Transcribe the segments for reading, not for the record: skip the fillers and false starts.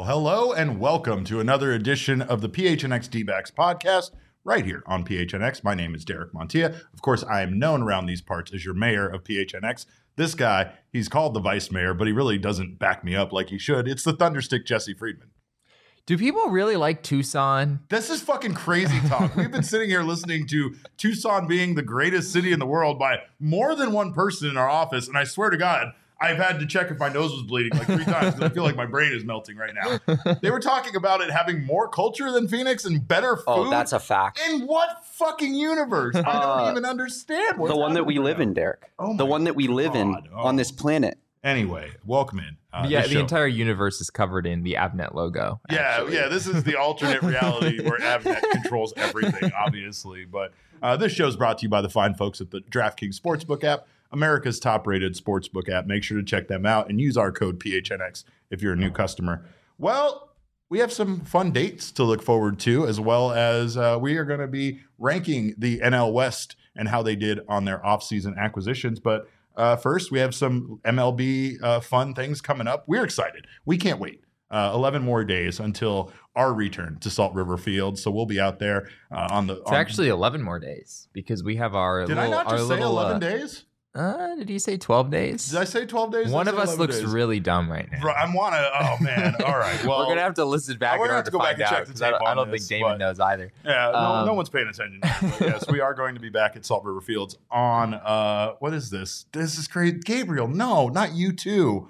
hello, and welcome to another edition of the PHNX D-backs podcast right here on PHNX. My name is Derek Montilla. Of course, I am known around these parts as your mayor of PHNX. This guy, he's called the vice mayor, but he really doesn't back me up like he should. It's the Thunderstick Jesse Friedman. Do people really like Tucson? This is fucking crazy talk. We've been sitting here listening to Tucson being the greatest city in the world by more than one person in our office, and I swear to God, I've had to check if my nose was bleeding like 3 times because I feel like my brain is melting right now. They were talking about it having more culture than Phoenix and better food. Oh, that's a fact. In what fucking universe? I don't even understand. The one that we live in, Derek. The one that we live in on this planet. Anyway, welcome in. The entire universe is covered in the Avnet logo. Yeah, this is the alternate reality where Avnet controls everything, obviously. But this show is brought to you by the fine folks at the DraftKings Sportsbook app, America's top-rated sportsbook app. Make sure to check them out and use our code PHNX if you're a new customer. Well, we have some fun dates to look forward to, as well as we are going to be ranking the NL West and how they did on their offseason acquisitions. But first, we have some MLB fun things coming up. We're excited. We can't wait. 11 more days until our return to Salt River Field. So we'll be out there It's actually 11 more days because we have our Did little, I not just say 11 days? Did he say 12 days? Did I say 12 days? One of us looks days? Really dumb right now. Oh, man. All right. Well, we're going to have to listen back in order to find out. I don't think Damon knows either. Yeah, no one's paying attention. But yes, we are going to be back at Salt River Fields on, what is this? This is crazy. Gabriel, no, not you too.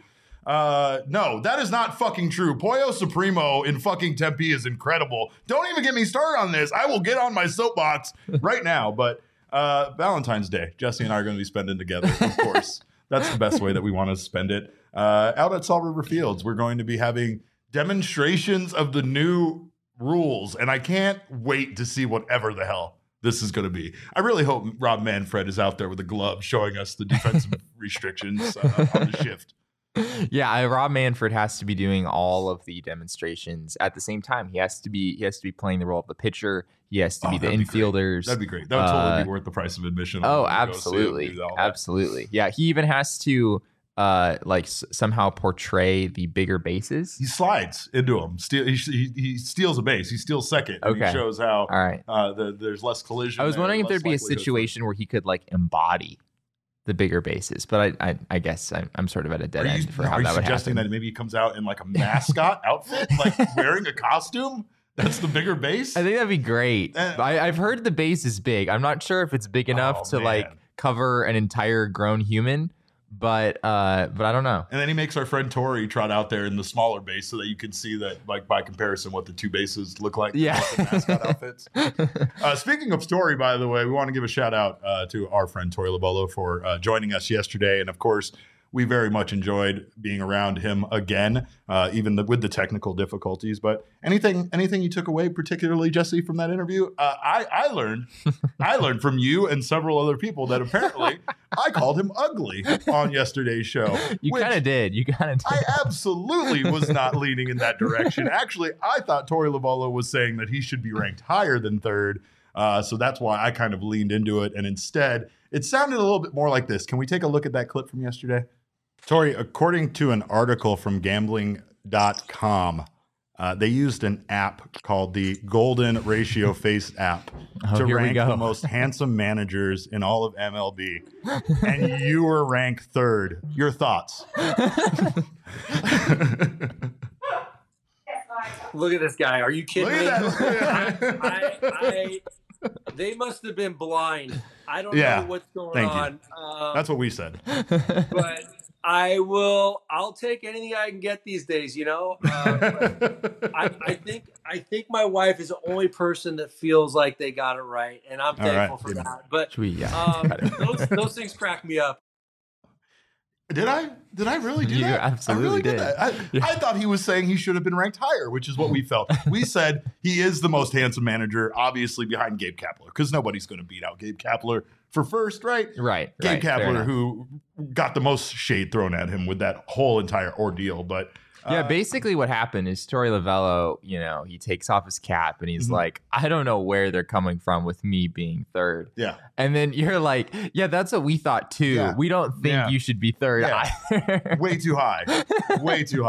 No, that is not fucking true. Pollo Supremo in fucking Tempe is incredible. Don't even get me started on this. I will get on my soapbox right now, but Valentine's Day, Jesse and I are going to be spending together, of course. That's the best way that we want to spend it. Out at Salt River Fields, we're going to be having demonstrations of the new rules, and I can't wait to see whatever the hell this is going to be. I really hope Rob Manfred is out there with a glove showing us the defensive restrictions on the shift. Yeah, Rob Manfred has to be doing all of the demonstrations at the same time. He has to be playing the role of the pitcher. He has to be the infielders. That'd be great. That would totally be worth the price of admission. Oh, absolutely, absolutely. Yeah, he even has to somehow portray the bigger bases. He slides into them. He steals a base. He steals second. And he shows how there's less collision. I was wondering if there'd be a situation where he could embody the bigger bases, but I guess I'm sort of at a dead end for how that would happen. Are you suggesting that maybe he comes out in like a mascot outfit, like wearing a costume? That's the bigger base? I think that'd be great. I've heard the base is big. I'm not sure if it's big enough to cover an entire grown human, but I don't know. And then he makes our friend Tori trot out there in the smaller base so that you can see that, by comparison, what the two bases look like. Yeah. The mascot outfits. Speaking of Tori, by the way, we want to give a shout out to our friend Tori Lobolo for joining us yesterday. And of course, we very much enjoyed being around him again, even with the technical difficulties. But anything you took away, particularly Jesse, from that interview? I learned from you and several other people that apparently I called him ugly on yesterday's show. You kind of did. I absolutely was not leaning in that direction. Actually, I thought Tori Lobolo was saying that he should be ranked higher than third. So that's why I kind of leaned into it. And instead, it sounded a little bit more like this. Can we take a look at that clip from yesterday? Tori, according to an article from gambling.com, they used an app called the Golden Ratio Face app to rank the most handsome managers in all of MLB. And you were ranked third. Your thoughts? Look at this guy. Are you kidding me? They must have been blind. I don't know what's going on. That's what we said. But I'll take anything I can get these days, I think my wife is the only person that feels like they got it right, and I'm thankful for that. But those things crack me up. Did I really do that? You absolutely did. I thought he was saying he should have been ranked higher, which is what we felt. We said he is the most handsome manager, obviously behind Gabe Kapler, because nobody's going to beat out Gabe Kapler for first, right? Right. Gabe Kapler, who got the most shade thrown at him with that whole entire ordeal. But basically what happened is Torey Lovullo, he takes off his cap and he's like, I don't know where they're coming from with me being third. Yeah. And then you're like, yeah, that's what we thought too. Yeah. We don't think you should be third either. Way too high. Way too high.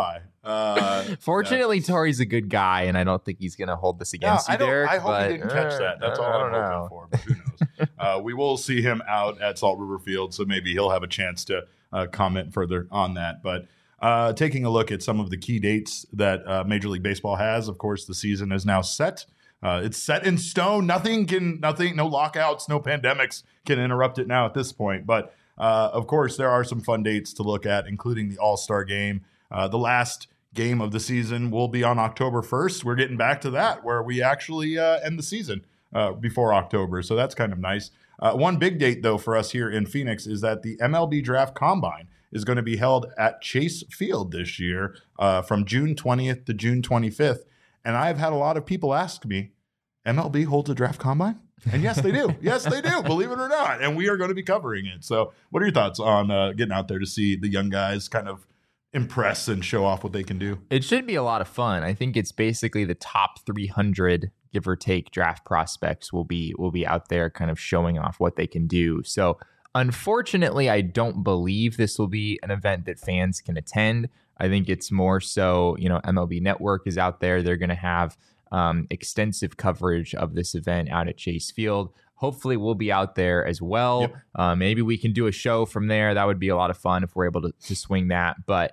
Fortunately, Tori's a good guy, and I don't think he's going to hold this against you, Derek. I hope he didn't catch that. That's all I'm hoping for, but who knows? We will see him out at Salt River Field, so maybe he'll have a chance to comment further on that. But taking a look at some of the key dates that Major League Baseball has, of course, the season is now set. It's set in stone. No lockouts, no pandemics can interrupt it now at this point. But of course, there are some fun dates to look at, including the All-Star Game. The last game of the season will be on October 1st. We're getting back to that, where we actually end the season before October. So that's kind of nice. One big date, though, for us here in Phoenix is that the MLB Draft Combine is going to be held at Chase Field this year from June 20th to June 25th. And I've had a lot of people ask me, MLB holds a draft combine? And yes, they do. Yes, they do, believe it or not. And we are going to be covering it. So what are your thoughts on getting out there to see the young guys kind of impress and show off what they can do? It should be a lot of fun. I think it's basically the top 300, give or take, draft prospects will be out there kind of showing off what they can do. So unfortunately, I don't believe this will be an event that fans can attend. I think it's more so, MLB Network is out there. They're going to have extensive coverage of this event out at Chase Field. Hopefully we'll be out there as well. Yep. Maybe we can do a show from there. That would be a lot of fun if we're able to swing that. But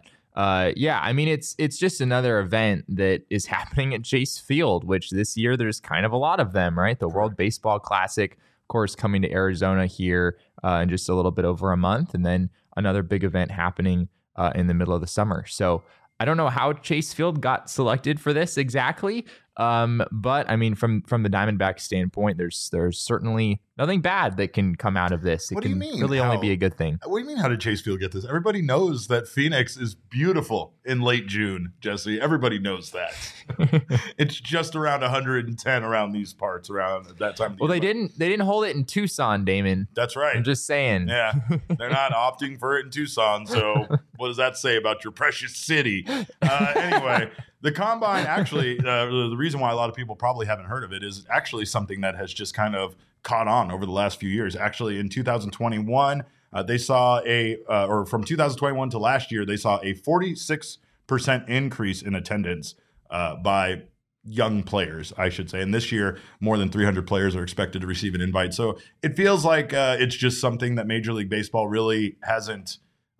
it's just another event that is happening at Chase Field, which this year there's kind of a lot of them, right? The World Baseball Classic, of course, coming to Arizona here in just a little bit over a month, and then another big event happening in the middle of the summer. So I don't know how Chase Field got selected for this exactly. But I mean, from the Diamondbacks standpoint, there's certainly nothing bad that can come out of this. It can really only be a good thing. What do you mean? How did Chase Field get this? Everybody knows that Phoenix is beautiful in late June, Jesse. Everybody knows that. It's just around 110 around these parts around that time of the year. Well, they didn't hold it in Tucson, Damon. That's right. I'm just saying. Yeah, they're not opting for it in Tucson. So what does that say about your precious city? Anyway. The Combine, actually, the reason why a lot of people probably haven't heard of it is actually something that has just kind of caught on over the last few years. Actually, in 2021, they saw from 2021 to last year, they saw a 46% increase in attendance by young players, I should say. And this year, more than 300 players are expected to receive an invite. So it feels like it's just something that Major League Baseball really hasn't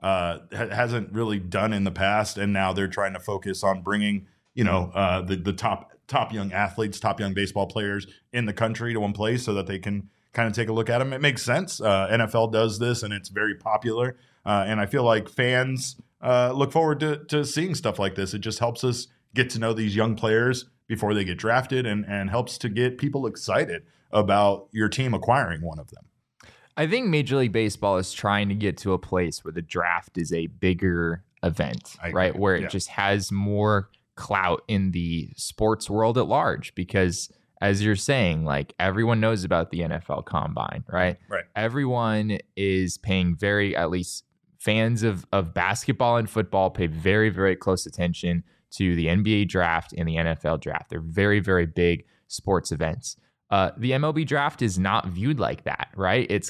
really done in the past. And now they're trying to focus on bringing the top young athletes, top young baseball players in the country to one place so that they can kind of take a look at them. It makes sense. NFL does this, and it's very popular. And I feel like fans look forward to seeing stuff like this. It just helps us get to know these young players before they get drafted and helps to get people excited about your team acquiring one of them. I think Major League Baseball is trying to get to a place where the draft is a bigger event, right? Where it just has more clout in the sports world at large, because as you're saying, like, everyone knows about the NFL Combine, right? Right. Everyone is paying at least fans of basketball and football pay very, very close attention to the NBA draft and the NFL draft. They're very, very big sports events. The MLB draft is not viewed like that, right? It's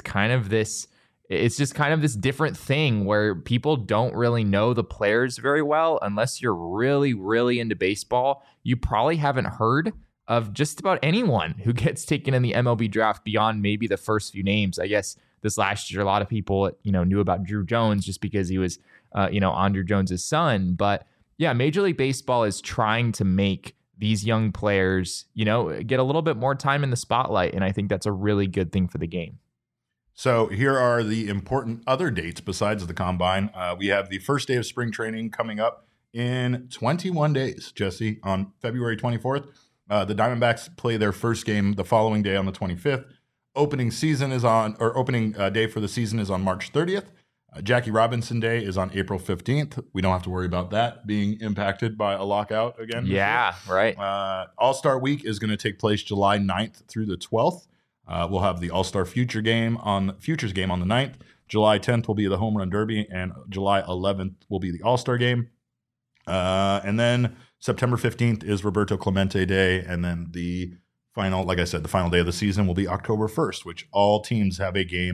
just kind of this different thing where people don't really know the players very well. Unless you're really, really into baseball, you probably haven't heard of just about anyone who gets taken in the MLB draft beyond maybe the first few names. I guess this last year, a lot of people, knew about Drew Jones just because he was, Andrew Jones's son. But yeah, Major League Baseball is trying to make these young players, get a little bit more time in the spotlight. And I think that's a really good thing for the game. So here are the important other dates besides the Combine. We have the first day of spring training coming up in 21 days, Jesse, on February 24th. The Diamondbacks play their first game the following day on the 25th. Opening day for the season is on March 30th. Jackie Robinson Day is on April 15th. We don't have to worry about that being impacted by a lockout again. Yeah, right. All-Star Week is going to take place July 9th through the 12th. We'll have the All-Star Futures game on the 9th. July 10th will be the Home Run Derby, and July 11th will be the All-Star game. And then September 15th is Roberto Clemente Day, and then the final day of the season will be October 1st, which all teams have a game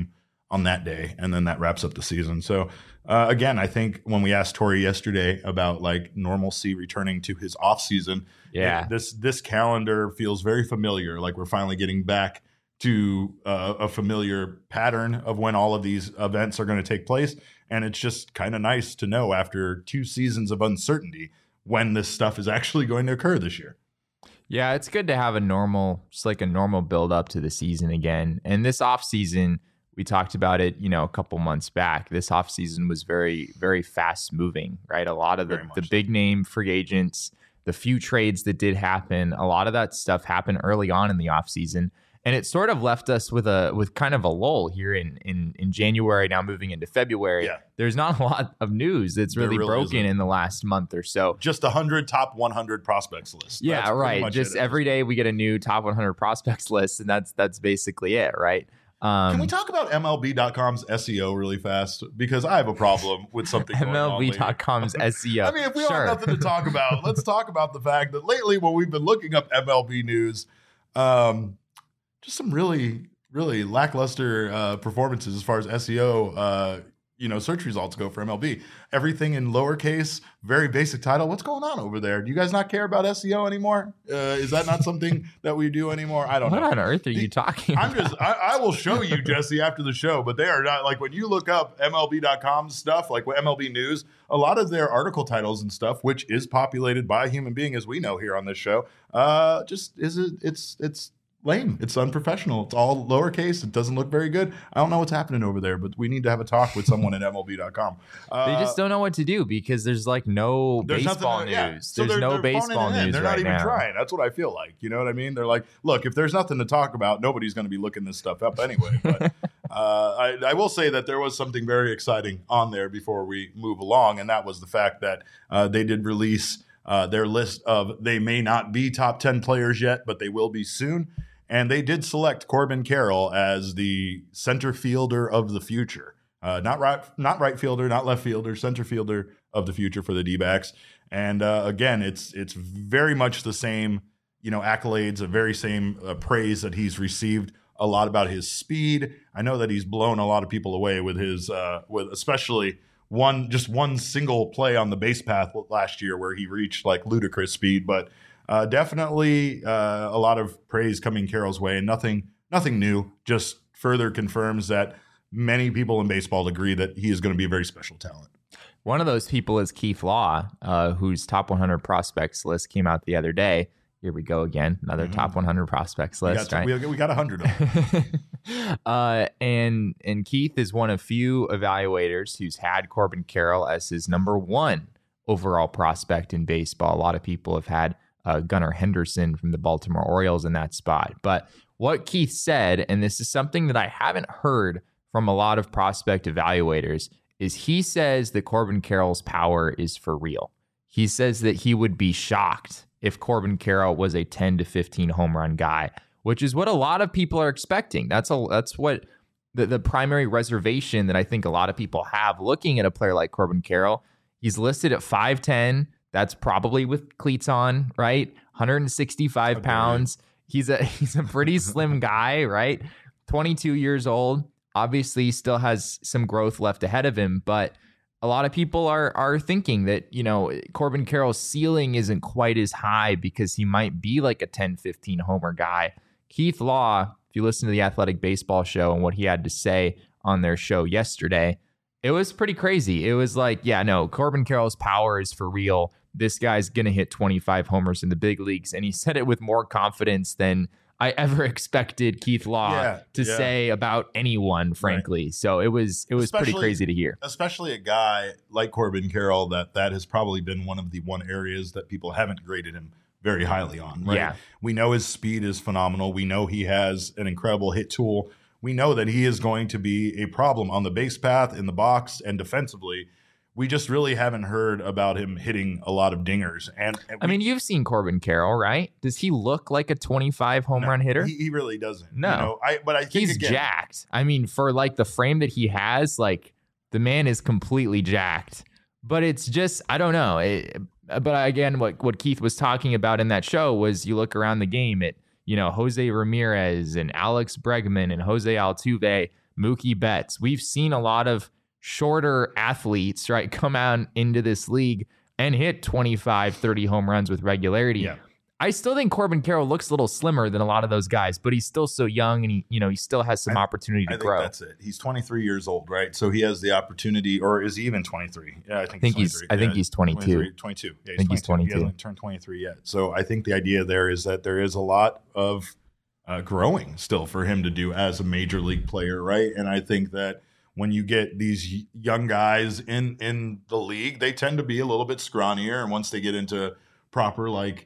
on that day, and then that wraps up the season. So again, I think when we asked Tori yesterday about like normalcy returning to his off season, this calendar feels very familiar. Like we're finally getting back to a familiar pattern of when all of these events are going to take place. And it's just kind of nice to know after 2 seasons of uncertainty when this stuff is actually going to occur this year. Yeah, it's good to have a normal build up to the season again. And this off season, we talked about it, a couple months back. This off season was very, very fast moving, right? A lot of the big name free agents, the few trades that did happen, a lot of that stuff happened early on in the off season. And it sort of left us with kind of a lull here in January, now moving into February. Yeah. There's not a lot of news that's really broken in the last month or so. Just 100 top 100 prospects list. Yeah, right. Just every day we get a new top 100 prospects list, and that's basically it, right? Can we talk about MLB.com's SEO really fast? Because I have a problem with something going on lately. MLB.com's SEO. I mean, if we have nothing to talk about, let's talk about the fact that lately when we've been looking up MLB news, just some really, really lackluster performances as far as SEO, search results go for MLB. Everything in lowercase, very basic title. What's going on over there? Do you guys not care about SEO anymore? Is that not something that we do anymore? I don't know. What on earth are you talking about? I will show you, Jesse, after the show, but they are not, like when you look up MLB.com stuff, like MLB news, a lot of their article titles and stuff, which is populated by a human being, as we know here on this show, it's lame. It's unprofessional. It's all lowercase. It doesn't look very good. I don't know what's happening over there, but we need to have a talk with someone at MLB.com. They just don't know what to do because there's like no baseball news. Yeah. So there's no baseball news. They're not even trying. That's what I feel like. You know what I mean? They're like, look, if there's nothing to talk about, nobody's going to be looking this stuff up anyway. But I will say that there was something very exciting on there before we move along, and that was the fact that they did release their list of they may not be top 10 players yet, but they will be soon. And they did select Corbin Carroll as the center fielder of the future. Not right fielder, not left fielder, center fielder of the future for the D-backs. And again, it's very much the same, accolades, a very same praise that he's received. A lot about his speed. I know that he's blown a lot of people away with his, with especially one single play on the base path last year where he reached like ludicrous speed, but. Definitely a lot of praise coming Carroll's way, and nothing new. Just further confirms that many people in baseball agree that he is going to be a very special talent. One of those people is Keith Law, whose top 100 prospects list came out the other day. Here we go again, another top 100 prospects list. We got 100 of them. And Keith is one of few evaluators who's had Corbin Carroll as his number 1 overall prospect in baseball. A lot of people have had Gunnar Henderson from the Baltimore Orioles in that spot. But what Keith said, and this is something that I haven't heard from a lot of prospect evaluators, is he says that Corbin Carroll's power is for real. He says that he would be shocked if Corbin Carroll was a 10 to 15 home run guy, which is what a lot of people are expecting. That's what the primary reservation that I think a lot of people have looking at a player like Corbin Carroll. He's listed at 5'10". That's probably with cleats on, right? 165 pounds. He's a pretty slim guy, right? 22 years old. Obviously, still has some growth left ahead of him, but a lot of people are thinking that, Corbin Carroll's ceiling isn't quite as high because he might be like a 10, 15 homer guy. Keith Law, if you listen to the Athletic Baseball Show and what he had to say on their show yesterday, it was pretty crazy. It was like, Corbin Carroll's power is for real. This guy's going to hit 25 homers in the big leagues. And he said it with more confidence than I ever expected Keith Law to say about anyone, frankly. Right. So it was pretty crazy to hear. Especially a guy like Corbin Carroll, that has probably been one of the areas that people haven't graded him very highly on. Right? Yeah. We know his speed is phenomenal. We know he has an incredible hit tool. We know that he is going to be a problem on the base path, in the box, and defensively. We just really haven't heard about him hitting a lot of dingers. And I mean, you've seen Corbin Carroll, right? Does he look like a 25 home run hitter? He really doesn't. No. But I think he's jacked. I mean, for like the frame that he has, like the man is completely jacked. But it's just, I don't know. But again, what Keith was talking about in that show was you look around the game at, Jose Ramirez and Alex Bregman and Jose Altuve. Mookie Betts. We've seen a lot of shorter athletes, right, come out into this league and hit 25, 30 home runs with regularity. Yeah. I still think Corbin Carroll looks a little slimmer than a lot of those guys, but he's still so young, and he still has some opportunity to grow. I think that's it. He's 23 years old, right? So he has the opportunity, or is he even 23? Yeah, I think he's 23. I think he's 22. 22. Yeah, I think he's 22. He hasn't turned 23 yet. So I think the idea there is that there is a lot of growing still for him to do as a major league player, right? And I think that when you get these young guys in the league, they tend to be a little bit scrawnier, and once they get into proper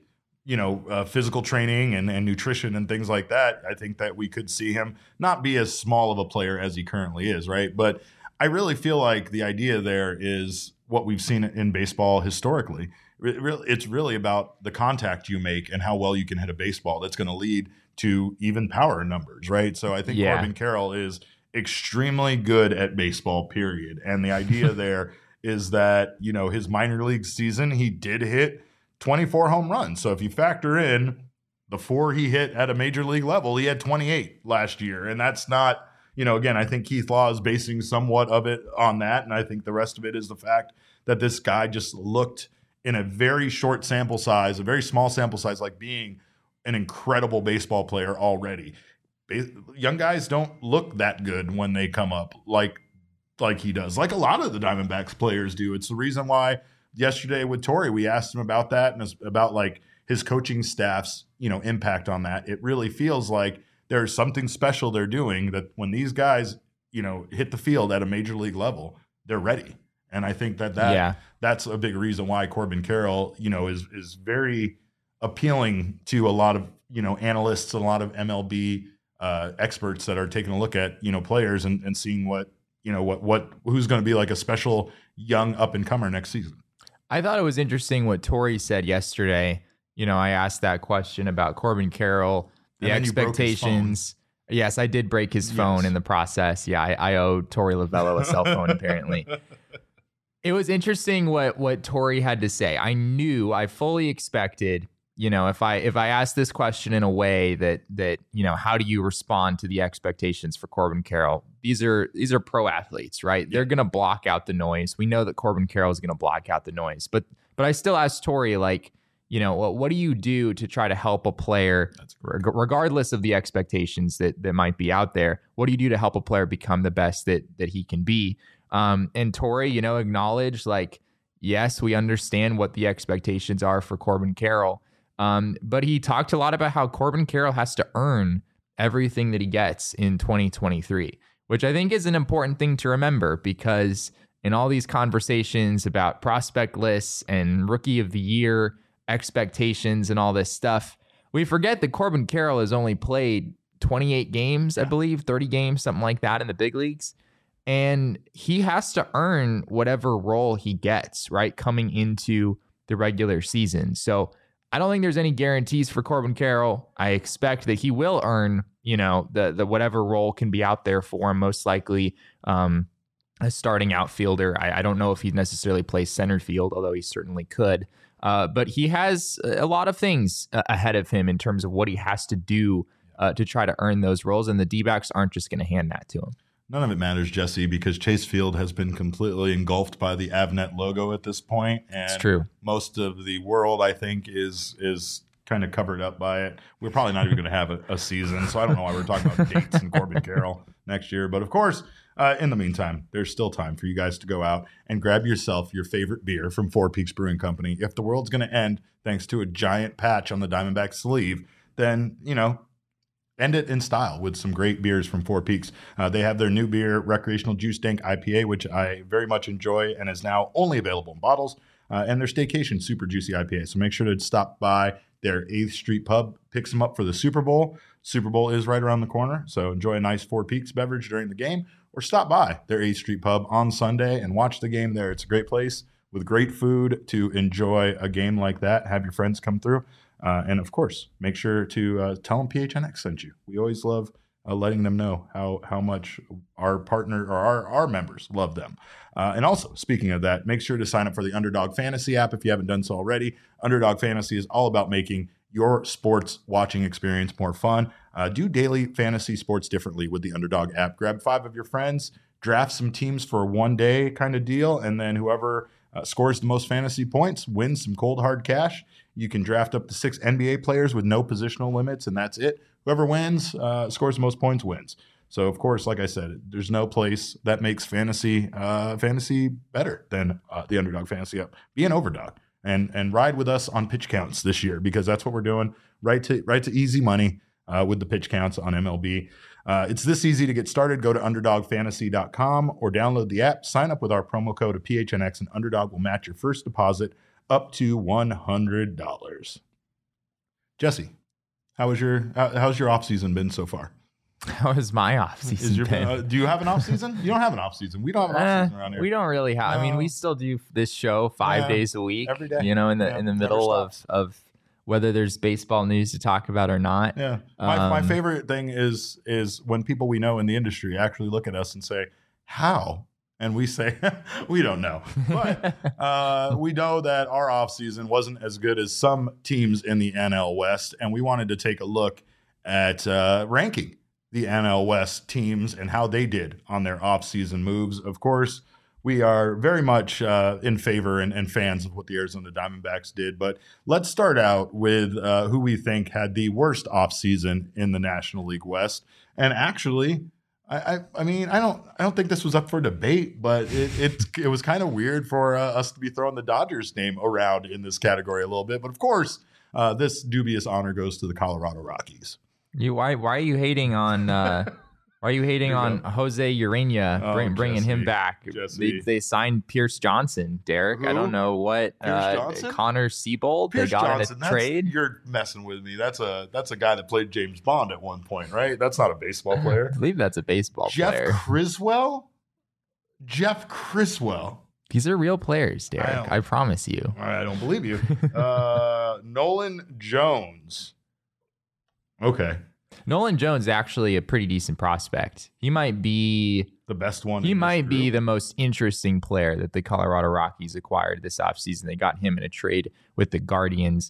physical training and nutrition and things like that, I think that we could see him not be as small of a player as he currently is, right? But I really feel like the idea there is what we've seen in baseball historically. It's really about the contact you make and how well you can hit a baseball that's going to lead to even power numbers, right? So I think Corbin Carroll is extremely good at baseball, period. And the idea there is that, his minor league season, he did hit 24 home runs. So if you factor in the 4 he hit at a major league level, he had 28 last year. And that's not, again, I think Keith Law is basing somewhat of it on that. And I think the rest of it is the fact that this guy just looked in a very short sample size, a very small sample size, like being an incredible baseball player already. Young guys don't look that good when they come up like he does, like a lot of the Diamondbacks players do. It's the reason why yesterday with Torey, we asked him about that and about like his coaching staff's, impact on that. It really feels like there's something special they're doing, that when these guys, hit the field at a major league level, they're ready. And I think that's a big reason why Corbin Carroll, is very appealing to a lot of, analysts and a lot of MLB experts that are taking a look at, players and seeing who's going to be like a special young up and comer next season. I thought it was interesting what Torey said yesterday. I asked that question about Corbin Carroll, the expectations. Yes, I did break his phone in the process. Yeah, I owe Torey Lovello a cell phone, apparently. It was interesting what Torey had to say. I fully expected, if I asked this question in a way that how do you respond to the expectations for Corbin Carroll? These are pro athletes, right? They're going to block out the noise. We know that Corbin Carroll is going to block out the noise. But I still asked Torey, what do you do to try to help a player, regardless of the expectations that might be out there? What do you do to help a player become the best that he can be? And Torey, acknowledged, yes, we understand what the expectations are for Corbin Carroll. But he talked a lot about how Corbin Carroll has to earn everything that he gets in 2023, which I think is an important thing to remember, because in all these conversations about prospect lists and rookie of the year expectations and all this stuff, we forget that Corbin Carroll has only played 28 games, I believe, 30 games, something like that in the big leagues. And he has to earn whatever role he gets, right, coming into the regular season. So I don't think there's any guarantees for Corbin Carroll. I expect that he will earn, the whatever role can be out there for him, most likely a starting outfielder. I don't know if he necessarily plays center field, although he certainly could. But he has a lot of things ahead of him in terms of what he has to do to try to earn those roles, and the D-backs aren't just going to hand that to him. None of it matters, Jesse, because Chase Field has been completely engulfed by the Avnet logo at this point. And it's true. Most of the world, I think, is kind of covered up by it. We're probably not even going to have a season, so I don't know why we're talking about dates and Corbin Carroll next year. But of course, in the meantime, there's still time for you guys to go out and grab yourself your favorite beer from Four Peaks Brewing Company. If the world's going to end thanks to a giant patch on the Diamondback sleeve, then, end it in style with some great beers from Four Peaks. They have their new beer, Recreational Juice Dank IPA, which I very much enjoy and is now only available in bottles, and their Staycation Super Juicy IPA. So make sure to stop by their 8th Street Pub, pick some up for the Super Bowl. Super Bowl is right around the corner, so enjoy a nice Four Peaks beverage during the game, or stop by their 8th Street Pub on Sunday and watch the game there. It's a great place with great food to enjoy a game like that. Have your friends come through. And of course, make sure to tell them PHNX sent you. We always love letting them know how much our partner or our members love them. And also, speaking of that, make sure to sign up for the Underdog Fantasy app if you haven't done so already. Underdog Fantasy is all about making your sports watching experience more fun. Do daily fantasy sports differently with the Underdog app. Grab 5 of your friends, draft some teams for a one-day kind of deal, and then whoever scores the most fantasy points wins some cold hard cash. You can draft up to 6 NBA players with no positional limits, and that's it. Whoever wins, scores the most points wins. So, of course, like I said, there's no place that makes fantasy better than the Underdog Fantasy app. Be an overdog and ride with us on pitch counts this year, because that's what we're doing. Right to easy money with the pitch counts on MLB. It's this easy to get started. Go to UnderdogFantasy.com or download the app. Sign up with our promo code of PHNX, and Underdog will match your first deposit up to $100. Jesse, how's your offseason been so far? How has my offseason been? Do you have an offseason? You don't have an offseason. We don't have an offseason around here. We don't really have. I mean, we still do this show 5 days a week. Every day. In the middle of whether there's baseball news to talk about or not. Yeah. My favorite thing is when people we know in the industry actually look at us and say, how? And we say, we don't know. But we know that our offseason wasn't as good as some teams in the NL West, and we wanted to take a look at ranking the NL West teams and how they did on their offseason moves. Of course, we are very much in favor and fans of what the Arizona Diamondbacks did. But let's start out with who we think had the worst offseason in the National League West. And actually, I mean, I don't think this was up for debate, but it was kind of weird for us to be throwing the Dodgers name around in this category a little bit. But of course, this dubious honor goes to the Colorado Rockies. Why are you hating on on Jose Urena, bringing him back? They signed Pierce Johnson, Derek. Who? I don't know what. Connor Seabold. They got Johnson, a trade. You're messing with me. That's a guy that played James Bond at one point, right? That's not a baseball player. I believe that's a baseball player. Jeff Criswell. These are real players, Derek. I promise you. I don't believe you. Nolan Jones. Okay. Nolan Jones is actually a pretty decent prospect. He might be the best one. He might be the most interesting player that the Colorado Rockies acquired this offseason. They got him in a trade with the Guardians.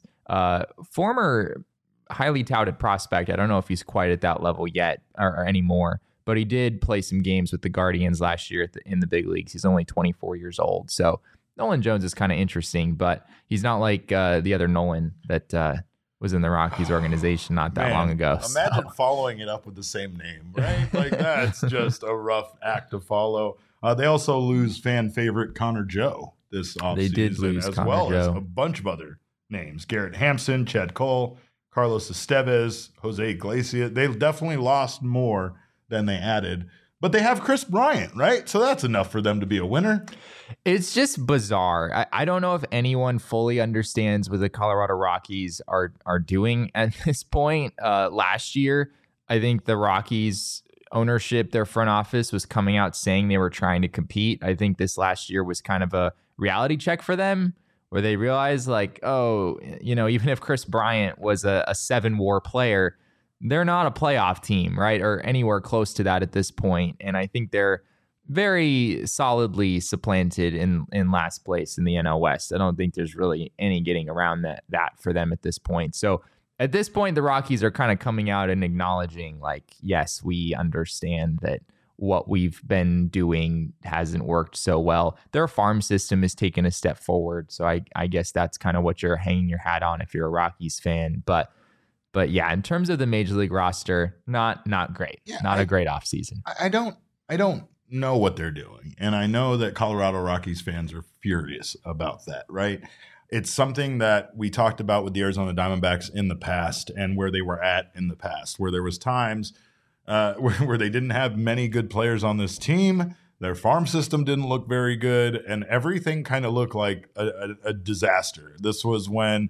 Former highly touted prospect. I don't know if he's quite at that level yet or anymore, but he did play some games with the Guardians last year in the big leagues. He's only 24 years old. So Nolan Jones is kind of interesting, but he's not like the other Nolan that was in the Rockies organization not that long ago. Imagine following it up with the same name, right? Like, that's just a rough act to follow. They also lose fan favorite Connor Joe this offseason. They did lose as well as a bunch of other names. Garrett Hampson, Chad Cole, Carlos Estevez, Jose Iglesias. They definitely lost more than they added. But they have Chris Bryant, right? So that's enough for them to be a winner. It's just bizarre. I don't know if anyone fully understands what the Colorado Rockies are doing at this point. Last year, I think the Rockies ownership, their front office was coming out saying they were trying to compete. I think this last year was kind of a reality check for them where they realized like, oh, even if Chris Bryant was a 7-WAR player, they're not a playoff team, right? Or anywhere close to that at this point. And I think they're very solidly supplanted in last place in the NL West. I don't think there's really any getting around that for them at this point. So at this point, the Rockies are kind of coming out and acknowledging like, yes, we understand that what we've been doing hasn't worked so well. Their farm system has taken a step forward. So I guess that's kind of what you're hanging your hat on if you're a Rockies fan. But yeah, in terms of the major league roster, not great. Yeah, not a great offseason. I don't know what they're doing. And I know that Colorado Rockies fans are furious about that, right? It's something that we talked about with the Arizona Diamondbacks in the past and where they were at in the past, where there was times where they didn't have many good players on this team. Their farm system didn't look very good, and everything kind of looked like a disaster. This was when,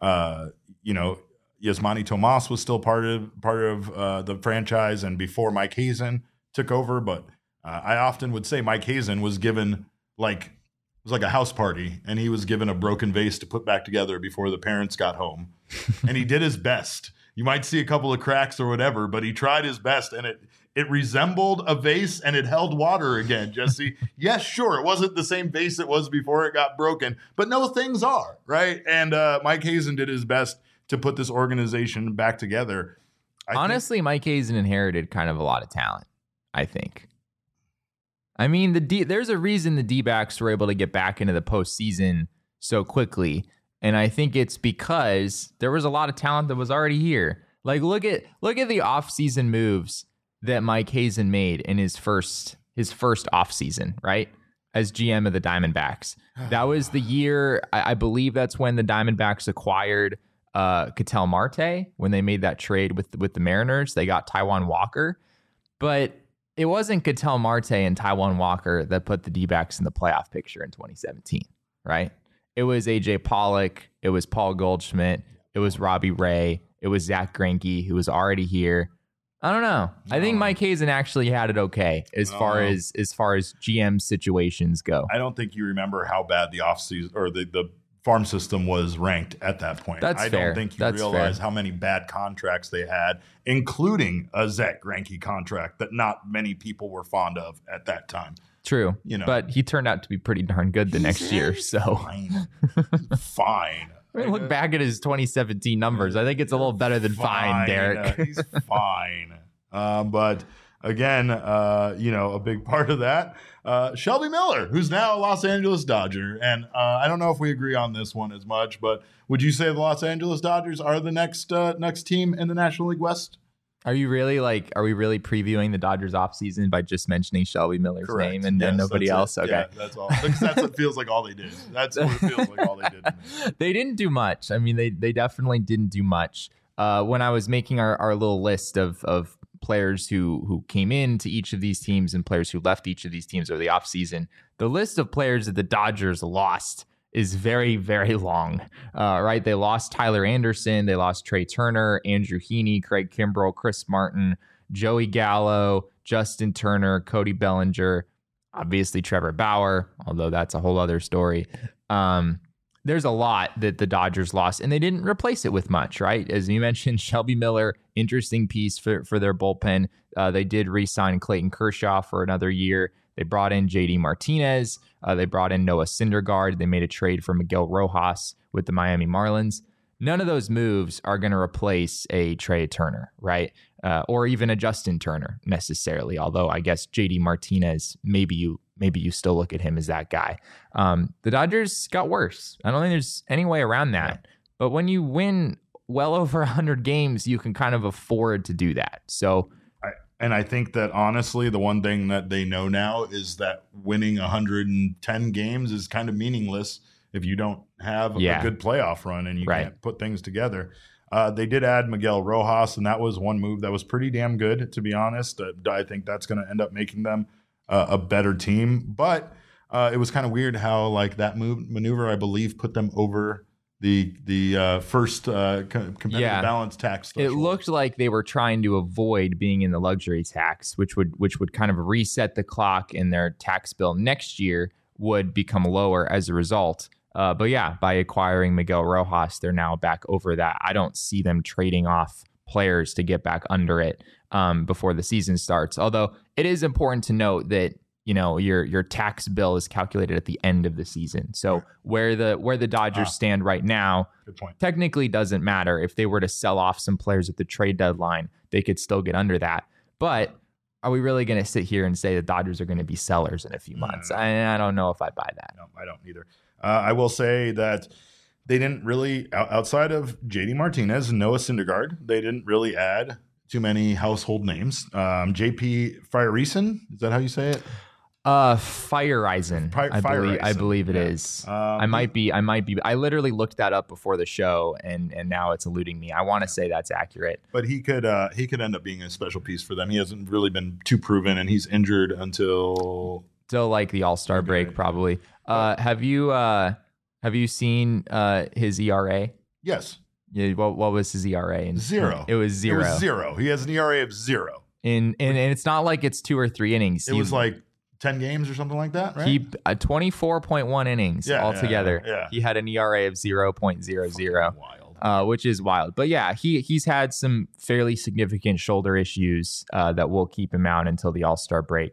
Yasmani Tomas was still part of the franchise and before Mike Hazen took over. But I often would say Mike Hazen was given it was like a house party, and he was given a broken vase to put back together before the parents got home. And he did his best. You might see a couple of cracks or whatever, but he tried his best, and it resembled a vase and it held water again, Jesse. Yes, sure, it wasn't the same vase it was before it got broken, but no, things are, right? And Mike Hazen did his best to put this organization back together. Honestly, Mike Hazen inherited kind of a lot of talent, I think. I mean, there's a reason the D-backs were able to get back into the postseason so quickly, and I think it's because there was a lot of talent that was already here. Like, look at the offseason moves that Mike Hazen made in his first offseason, right? As GM of the Diamondbacks. That was the year, I believe that's when the Diamondbacks acquired Ketel Marte, when they made that trade with the Mariners. They got Taijuan Walker. But it wasn't Ketel Marte and Taijuan Walker that put the D-backs in the playoff picture in 2017, right? It was AJ Pollock. It was Paul Goldschmidt. It was Robbie Ray. It was Zach Greinke, who was already here. I don't know. I think Mike Hazen actually had it okay as far as GM situations go. I don't think you remember how bad the offseason or the farm system was ranked at that point. That's fair. I don't think you realize how many bad contracts they had, including a Zach Greinke contract that not many people were fond of at that time. True, but he turned out to be pretty darn good the next year. So fine. I mean, look back at his 2017 numbers. I think it's a little better than fine, Derek. He's fine. But again, a big part of that, Shelby Miller, who's now a Los Angeles Dodger. And I don't know if we agree on this one as much, but would you say the Los Angeles Dodgers are the next team in the National League West? Are we really previewing the Dodgers offseason by just mentioning Shelby Miller's name and then nobody else? Okay. Yeah, that's all. Because that's what feels like all they did. That's what it feels like all they did to me. They didn't do much. I mean, they definitely didn't do much. When I was making our little list of players who came into each of these teams and players who left each of these teams over the offseason, the list of players that the Dodgers lost is very, very long, right? They lost Tyler Anderson. They lost Trey Turner, Andrew Heaney, Craig Kimbrell, Chris Martin, Joey Gallo, Justin Turner, Cody Bellinger, obviously Trevor Bauer, although that's a whole other story. There's a lot that the Dodgers lost, and they didn't replace it with much, right? As you mentioned, Shelby Miller, interesting piece for their bullpen. They did re-sign Clayton Kershaw for another year. They brought in JD Martinez. They brought in Noah Syndergaard. They made a trade for Miguel Rojas with the Miami Marlins. None of those moves are going to replace a Trey Turner, right? Or even a Justin Turner necessarily. Although I guess JD Martinez, maybe you still look at him as that guy. The Dodgers got worse. I don't think there's any way around that. But when you win well over 100 games, you can kind of afford to do that. So. And I think that honestly, the one thing that they know now is that winning 110 games is kind of meaningless if you don't have a good playoff run and you can't put things together. They did add Miguel Rojas, and that was one move that was pretty damn good, to be honest. I think that's going to end up making them a better team. But it was kind of weird how that maneuver, I believe, put them over the first competitive balance tax threshold. It looked like they were trying to avoid being in the luxury tax, which would kind of reset the clock, and their tax bill next year would become lower as a result. But yeah, by acquiring Miguel Rojas, they're now back over that. I don't see them trading off players to get back under it before the season starts. Although it is important to note that your tax bill is calculated at the end of the season. So where the Dodgers stand right now, good point, technically doesn't matter. If they were to sell off some players at the trade deadline, they could still get under that. But are we really going to sit here and say the Dodgers are going to be sellers in a few months? No. I don't know if I buy that. No, I don't either. I will say that they didn't really, outside of JD Martinez and Noah Syndergaard, they didn't really add too many household names. JP Feyereisen, is that how you say it? Feyereisen, I believe it is. I might be. I literally looked that up before the show, and now it's eluding me. I want to say that's accurate. But he could end up being a special piece for them. He hasn't really been too proven, and he's injured until like the All-Star break, probably. Have you seen his ERA? Yes. Yeah. What was his ERA? 0. It was 0. It was 0. He has an ERA of 0. And it's not like it's 2 or 3 innings. It was like 10 games or something like that, right? He 24.1 innings altogether. Yeah. He had an ERA of 0.00. Wild. Which is wild. But yeah, he's had some fairly significant shoulder issues that will keep him out until the All-Star break. And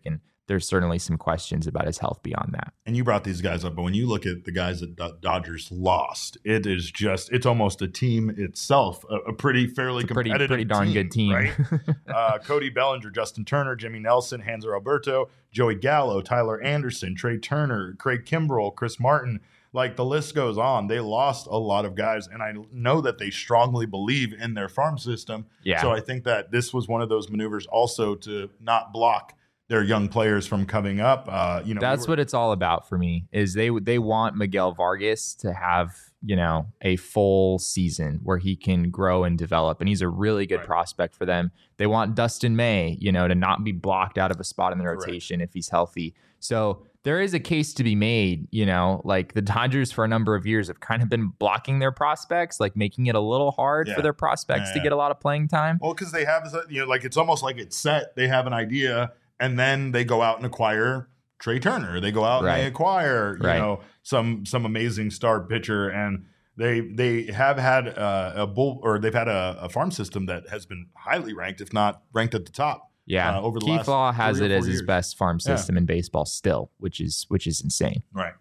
there's certainly some questions about his health beyond that. And you brought these guys up, but when you look at the guys that Dodgers lost, it's almost a team itself, a pretty fairly competitive pretty darn good team. Right? Cody Bellinger, Justin Turner, Jimmy Nelson, Hanser Alberto, Joey Gallo, Tyler Anderson, Trey Turner, Craig Kimbrell, Chris Martin. Like, the list goes on. They lost a lot of guys, and I know that they strongly believe in their farm system. Yeah. So I think that this was one of those maneuvers also to not block their young players from coming up. That's what it's all about for me, is they want Miguel Vargas to have, a full season where he can grow and develop. And he's a really good prospect for them. They want Dustin May, to not be blocked out of a spot in the rotation if he's healthy. So there is a case to be made, like the Dodgers for a number of years have kind of been blocking their prospects, like making it a little hard for their prospects to get a lot of playing time. Well, because they have, like, it's almost like it's set. They have an idea, and then they go out and acquire Trey Turner. They go out and they acquire, some amazing star pitcher, and they have had they've had a farm system that has been highly ranked, if not ranked at the top. Yeah, over the Keith last Law has it as years. his best farm system in baseball still, which is insane. Right.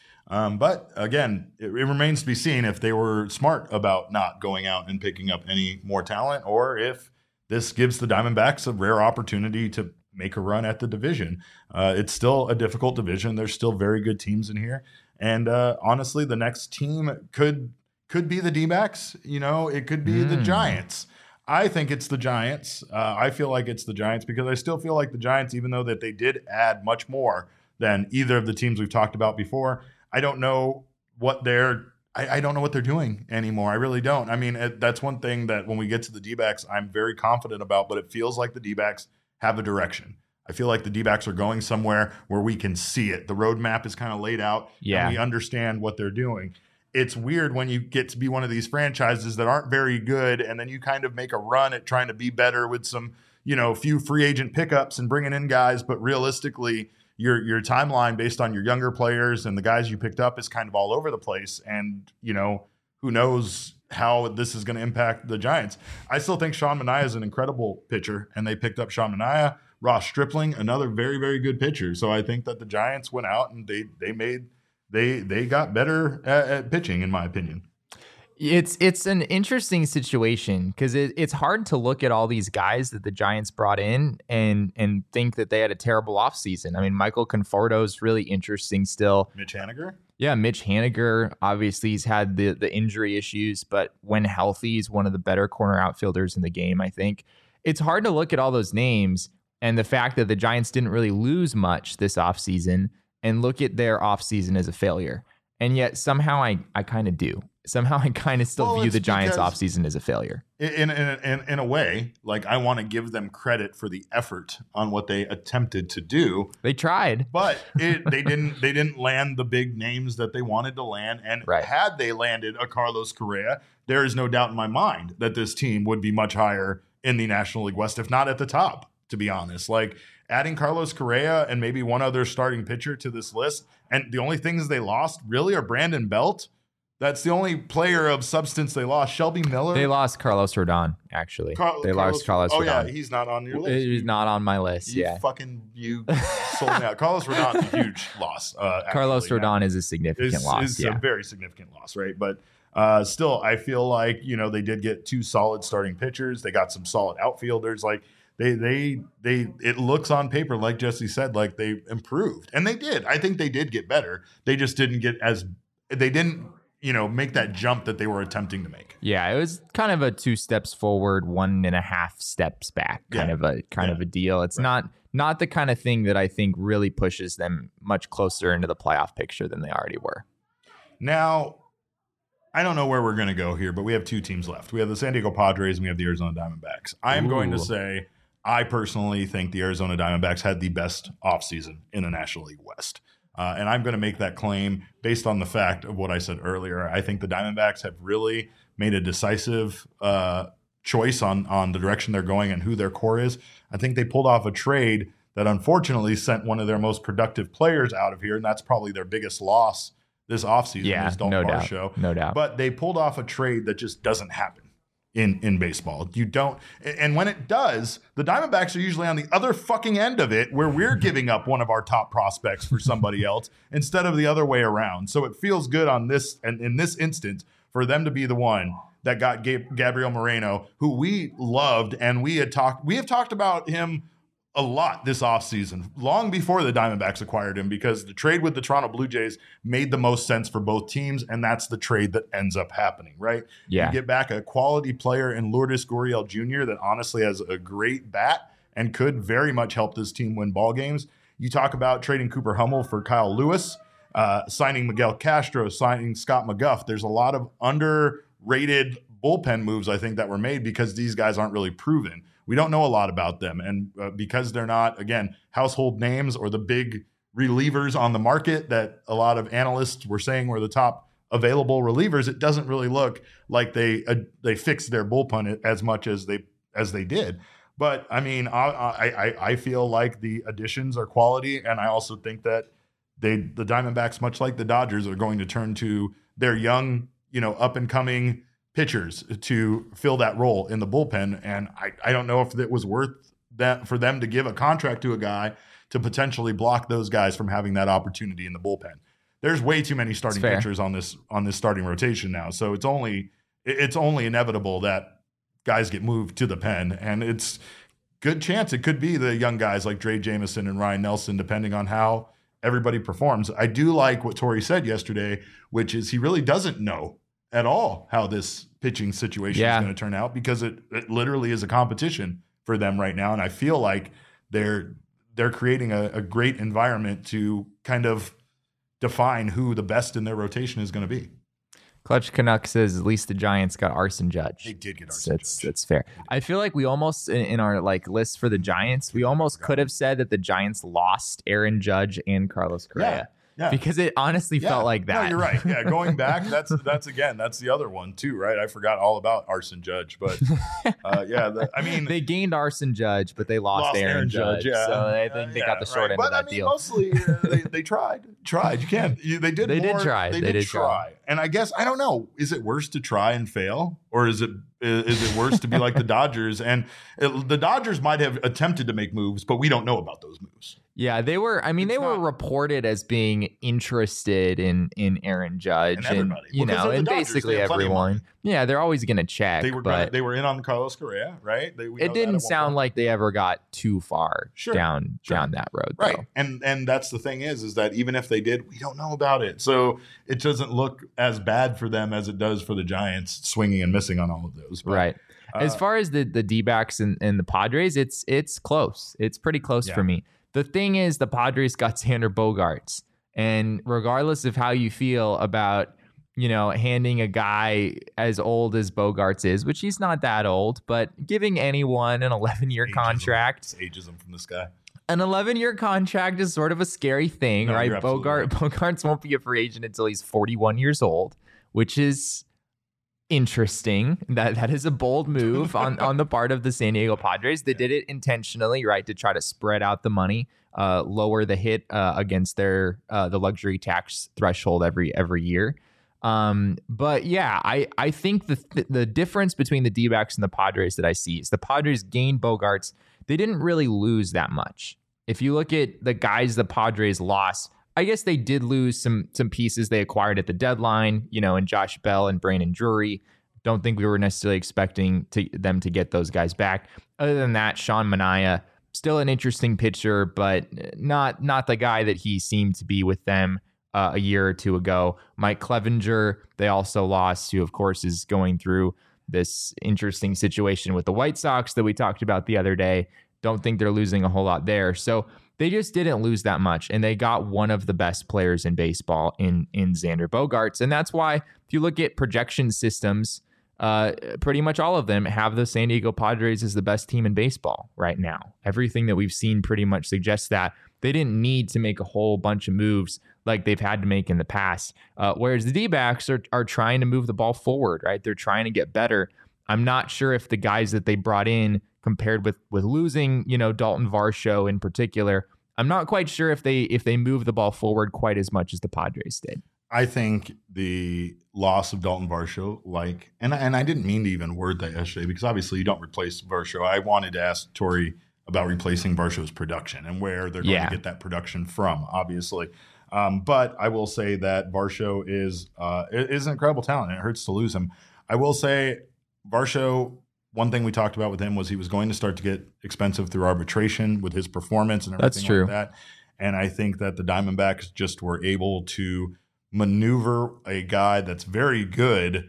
But again, it remains to be seen if they were smart about not going out and picking up any more talent, or if this gives the Diamondbacks a rare opportunity to make a run at the division. It's still a difficult division. There's still very good teams in here. And honestly, the next team could be the D-backs. It could be the Giants. I think it's the Giants. I feel like it's the Giants because I still feel like the Giants, even though that they did add much more than either of the teams we've talked about before, I don't know what they're doing anymore. I really don't. I mean, that's one thing that when we get to the D-backs, I'm very confident about, but it feels like the D-backs have a direction. I feel like the D-backs are going somewhere where we can see it. The roadmap is kind of laid out, and we understand what they're doing. It's weird when you get to be one of these franchises that aren't very good, and then you kind of make a run at trying to be better with some, few free agent pickups and bringing in guys. But realistically, your timeline based on your younger players and the guys you picked up is kind of all over the place. And, who knows how this is going to impact the Giants. I still think Sean Manaea is an incredible pitcher, and they picked up Sean Manaea. Ross Stripling, another very, very good pitcher. So I think that the Giants went out and they got better at pitching, in my opinion. It's an interesting situation because it's hard to look at all these guys that the Giants brought in and think that they had a terrible offseason. I mean, Michael Conforto is really interesting still. Mitch Haniger? Yeah, Mitch Haniger. Obviously, he's had the injury issues, but when healthy, he's one of the better corner outfielders in the game, I think. It's hard to look at all those names and the fact that the Giants didn't really lose much this offseason and look at their offseason as a failure. And yet somehow I kind of do. Somehow I kind of still view the Giants offseason as a failure. In a way, like, I want to give them credit for the effort on what they attempted to do. They tried. But they didn't land the big names that they wanted to land. And had they landed a Carlos Correa, there is no doubt in my mind that this team would be much higher in the National League West, if not at the top, to be honest. Like, adding Carlos Correa and maybe one other starting pitcher to this list, and the only things they lost really are Brandon Belt. That's the only player of substance they lost. Shelby Miller. They lost Carlos Rodon, actually. They lost Carlos Rodon. Oh, yeah, he's not on your list. He's not on my list, you sold me out. Carlos Rodon's a huge loss. Carlos Rodon is a significant loss. It's a very significant loss, right? But still, I feel like, they did get two solid starting pitchers. They got some solid outfielders. Like, it looks on paper, like Jesse said, like they improved, and they did. I think they did get better. They just didn't make that jump that they were attempting to make. Yeah, it was kind of a 2 steps forward, 1.5 steps back kind of a deal. It's not the kind of thing that I think really pushes them much closer into the playoff picture than they already were. Now, I don't know where we're going to go here, but we have 2 teams left. We have the San Diego Padres and we have the Arizona Diamondbacks. I am going to say, I personally think the Arizona Diamondbacks had the best offseason in the National League West. And I'm going to make that claim based on the fact of what I said earlier. I think the Diamondbacks have really made a decisive choice on the direction they're going and who their core is. I think they pulled off a trade that unfortunately sent one of their most productive players out of here, and that's probably their biggest loss this offseason. Yeah, is Dalton Varsho. No doubt. But they pulled off a trade that just doesn't happen in baseball. You don't, and when it does, the Diamondbacks are usually on the other fucking end of it, where we're giving up one of our top prospects for somebody else instead of the other way around. So it feels good on this, and in this instance, for them to be the one that got Gabriel Moreno, who we loved, and we have talked about him a lot this offseason, long before the Diamondbacks acquired him, because the trade with the Toronto Blue Jays made the most sense for both teams, and that's the trade that ends up happening, right? Yeah. You get back a quality player in Lourdes Gurriel Jr. that honestly has a great bat and could very much help this team win ball games. You talk about trading Cooper Hummel for Kyle Lewis, signing Miguel Castro, signing Scott McGough. There's a lot of underrated bullpen moves, I think, that were made because these guys aren't really proven. We don't know a lot about them. And because they're not, again, household names or the big relievers on the market that a lot of analysts were saying were the top available relievers, it doesn't really look like they fixed their bullpen as much as they did. But I mean, I feel like the additions are quality, and I also think that the Diamondbacks, much like the Dodgers, are going to turn to their young, up and coming pitchers to fill that role in the bullpen. And I don't know if it was worth that for them to give a contract to a guy to potentially block those guys from having that opportunity in the bullpen. There's way too many starting pitchers on this starting rotation now. So it's only inevitable that guys get moved to the pen, and it's good chance it could be the young guys like Dre Jameson and Ryan Nelson, depending on how everybody performs. I do like what Torey said yesterday, which is he really doesn't know at all how this pitching situation is going to turn out, because it literally is a competition for them right now. And I feel like they're creating a great environment to kind of define who the best in their rotation is going to be. Clutch Canuck says at least the Giants got Arson Judge. They did get Arson Judge. That's fair. I feel like we almost, in our list for the Giants, we almost could have said that the Giants lost Aaron Judge and Carlos Correa. Yeah. Because it honestly felt like that. No, you're right. Yeah, going back, that's the other one too, right? I forgot all about Arson Judge, but they gained Arson Judge, but they lost Aaron Judge. Yeah. So I think they got the short end of that deal. Mostly they tried. You can't. They did try. And I guess I don't know. Is it worse to try and fail, or is it worse to be like the Dodgers? And the Dodgers might have attempted to make moves, but we don't know about those moves. Yeah, they were. I mean, they were reported as being interested in Aaron Judge, and and basically everyone. Yeah, they're always going to check. They were in on Carlos Correa, right? It didn't sound like they ever got too far down that road, right? Though. And that's the thing is that even if they did, we don't know about it. So it doesn't look as bad for them as it does for the Giants swinging and missing on all of those. But, right. As far as the D-backs and the Padres, it's close. It's pretty close for me. The thing is, the Padres got Xander Bogaerts, and regardless of how you feel about, handing a guy as old as Bogaerts is, which he's not that old, but giving anyone an 11-year contract. Ageism from this guy. An 11-year contract is sort of a scary thing, right? Bogaerts won't be a free agent until he's 41 years old, which is interesting. That is a bold move on the part of the San Diego Padres. They did it intentionally, right, to try to spread out the money, lower the hit against their the luxury tax threshold every year. But yeah, I think the difference between the D-backs and the Padres that I see is the Padres gained Bogaerts. They didn't really lose that much. If you look at the guys the Padres lost, I guess they did lose some pieces they acquired at the deadline, in Josh Bell and Brandon Drury. Don't think we were necessarily expecting them to get those guys back. Other than that, Sean Manaea, still an interesting pitcher, but not the guy that he seemed to be with them a year or two ago. Mike Clevinger, they also lost, who of course is going through this interesting situation with the White Sox that we talked about the other day. Don't think they're losing a whole lot there. So they just didn't lose that much, and they got one of the best players in baseball in Xander Bogaerts. And that's why if you look at projection systems, pretty much all of them have the San Diego Padres as the best team in baseball right now. Everything that we've seen pretty much suggests that they didn't need to make a whole bunch of moves like they've had to make in the past. Whereas the D-backs are trying to move the ball forward, right? They're trying to get better. I'm not sure if the guys that they brought in, compared with losing, Dalton Varsho in particular, I'm not quite sure if they move the ball forward quite as much as the Padres did. I think the loss of Dalton Varsho, and I didn't mean to even word that yesterday because obviously you don't replace Varsho. I wanted to ask Tori about replacing Varsho's production and where they're going to get that production from, obviously. But I will say that Varsho is an incredible talent, and it hurts to lose him. I will say Varsho, one thing we talked about with him was he was going to start to get expensive through arbitration with his performance and everything like that. And I think that the Diamondbacks just were able to maneuver a guy that's very good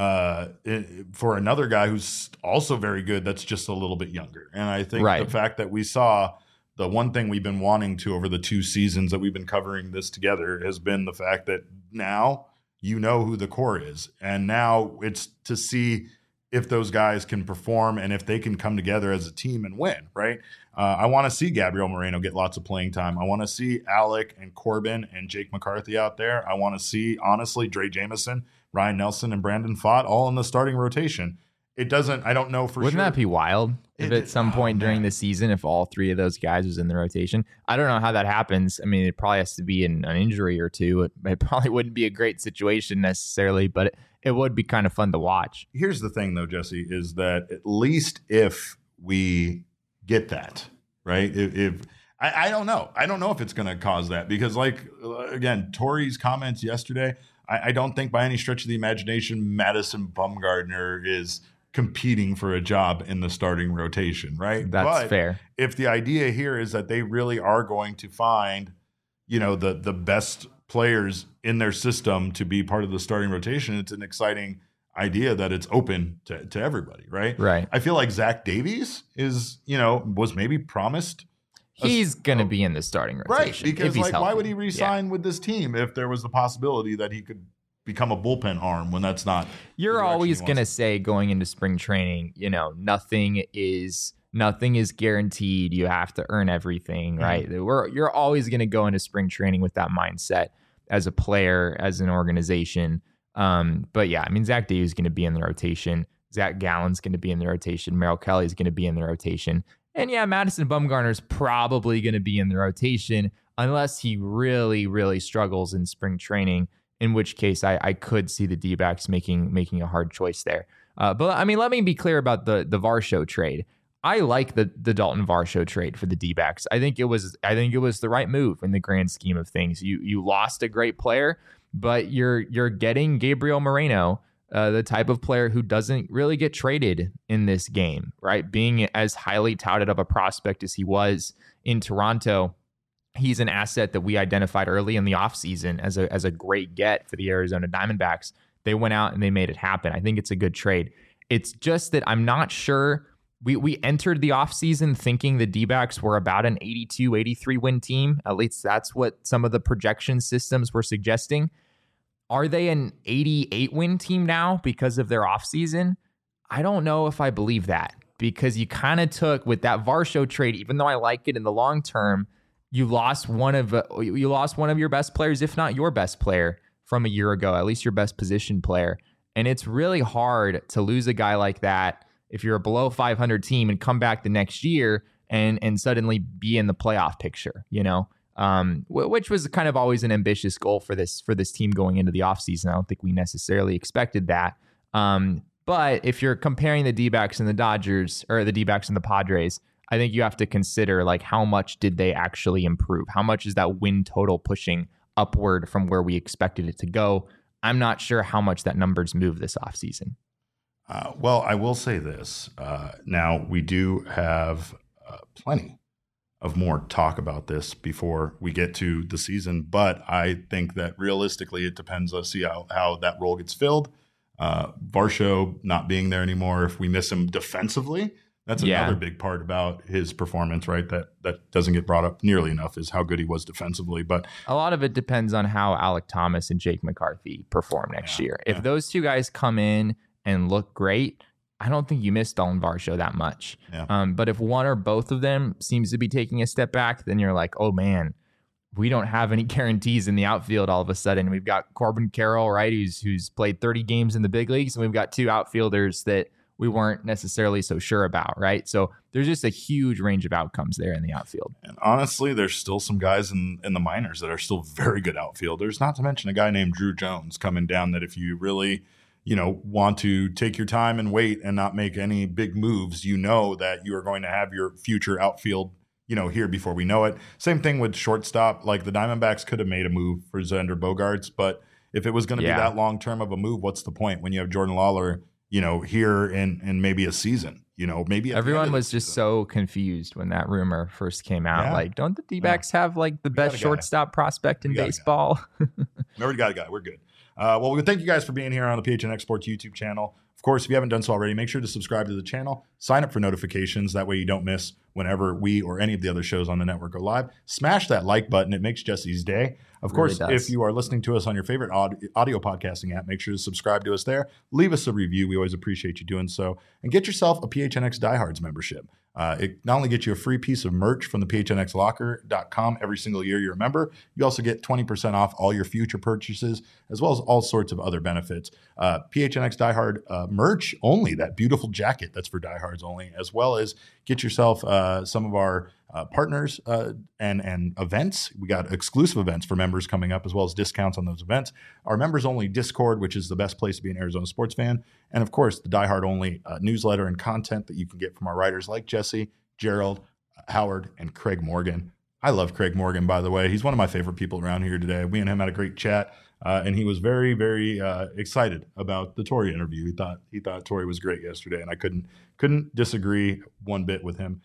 for another guy who's also very good that's just a little bit younger. And I think the fact that we saw the one thing we've been wanting to over the 2 seasons that we've been covering this together has been the fact that now you know who the core is. And now it's to see if those guys can perform and if they can come together as a team and win, right? I want to see Gabriel Moreno get lots of playing time. I want to see Alec and Corbin and Jake McCarthy out there. I want to see, honestly, Dre Jameson, Ryan Nelson, and Brandon Pfaadt all in the starting rotation. I don't know for sure. Wouldn't that be wild if at some point during the season, if all 3 of those guys was in the rotation? I don't know how that happens. I mean, it probably has to be an injury or two. It probably wouldn't be a great situation necessarily, but it would be kind of fun to watch. Here's the thing, though, Jesse, is that at least if we get that, right? I don't know. I don't know if it's going to cause that because, again, Tori's comments yesterday, I don't think by any stretch of the imagination Madison Bumgarner is competing for a job in the starting rotation, right? That's fair. If the idea here is that they really are going to find, the best players in their system to be part of the starting rotation, it's an exciting idea that it's open to everybody, right? Right. I feel like Zach Davies was maybe promised. He's going to be in the starting rotation. Right, because why would he re-sign with this team if there was the possibility that he could become a bullpen arm when that's not. You're always going to say going into spring training, nothing is guaranteed. You have to earn everything, right? You're always going to go into spring training with that mindset as a player, as an organization. But yeah, I mean, Zach Davies is going to be in the rotation. Zach Gallen's going to be in the rotation. Merrill Kelly is going to be in the rotation. And yeah, Madison Bumgarner is probably going to be in the rotation unless he really, really struggles in spring training, in which case I could see the D-backs making a hard choice there. But I mean, let me be clear about the Varsho trade. I like the Dalton Varsho trade for the D-backs. I think it was the right move in the grand scheme of things. You lost a great player, but you're getting Gabriel Moreno, the type of player who doesn't really get traded in this game, right? Being as highly touted of a prospect as he was in Toronto, he's an asset that we identified early in the offseason as a great get for the Arizona Diamondbacks. They went out and they made it happen. I think it's a good trade. It's just that I'm not sure. We entered the offseason thinking the D-backs were about an 82, 83 win team. At least that's what some of the projection systems were suggesting. Are they an 88 win team now because of their offseason? I don't know if I believe that, because you kind of took with that Varsho trade, even though I like it in the long term, you lost one of your best players, if not your best player from a year ago, at least your best position player. And it's really hard to lose a guy like that if you're a below 500 team and come back the next year and suddenly be in the playoff picture, which was kind of always an ambitious goal for this team going into the offseason. I don't think we necessarily expected that. But if you're comparing the D-backs and the Dodgers, or the D-backs and the Padres, I think you have to consider how much did they actually improve? How much is that win total pushing upward from where we expected it to go? I'm not sure how much that number's moved this offseason. Well, I will say this. Now, we do have plenty of more talk about this before we get to the season, but I think that realistically it depends. Let's see how that role gets filled. Varsho not being there anymore, if we miss him defensively, that's another big part about his performance, right? That doesn't get brought up nearly enough, is how good he was defensively. But a lot of it depends on how Alec Thomas and Jake McCarthy perform next year. If those two guys come in and look great, I don't think you miss Dalton Varsho that much. Yeah. But if one or both of them seems to be taking a step back, then you're like, oh man, we don't have any guarantees in the outfield all of a sudden. We've got Corbin Carroll, right, who's played 30 games in the big leagues, and we've got two outfielders that we weren't necessarily so sure about, right? So there's just a huge range of outcomes there in the outfield. And honestly, there's still some guys in the minors that are still very good outfielders, not to mention a guy named Drew Jones coming down that if you really, want to take your time and wait and not make any big moves, that you are going to have your future outfield, here before we know it. Same thing with shortstop. Like the Diamondbacks could have made a move for Xander Bogaerts, but if it was going to be that long-term of a move, what's the point when you have Jordan Lawler here in maybe a season, maybe everyone was just so confused when that rumor first came out. Yeah. Like, don't the D-backs have like the best shortstop prospect in baseball? We already got a guy. We're good. Well, we thank you guys for being here on the PHNX Sports YouTube channel. Of course, if you haven't done so already, make sure to subscribe to the channel, sign up for notifications. That way you don't miss whenever we or any of the other shows on the network go live. Smash that like button. It makes Jesse's day. Of course, if you are listening to us on your favorite audio podcasting app, make sure to subscribe to us there. Leave us a review. We always appreciate you doing so. And get yourself a PHNX Diehards membership. It not only gets you a free piece of merch from the phnxlocker.com every single year you're a member, you also get 20% off all your future purchases, as well as all sorts of other benefits. PHNX Diehard merch only, that beautiful jacket that's for diehards only, as well as get yourself some of our partners and events. We got exclusive events for members coming up, as well as discounts on those events. Our members only Discord, which is the best place to be an Arizona sports fan. And of course, the Diehard only newsletter and content that you can get from our writers like Jesse, Gerald, Howard, and Craig Morgan. I love Craig Morgan, by the way. He's one of my favorite people around here today. We and him had a great chat. And he was very, very excited about the Torrey interview. He thought Torrey was great yesterday, and I couldn't disagree one bit with him.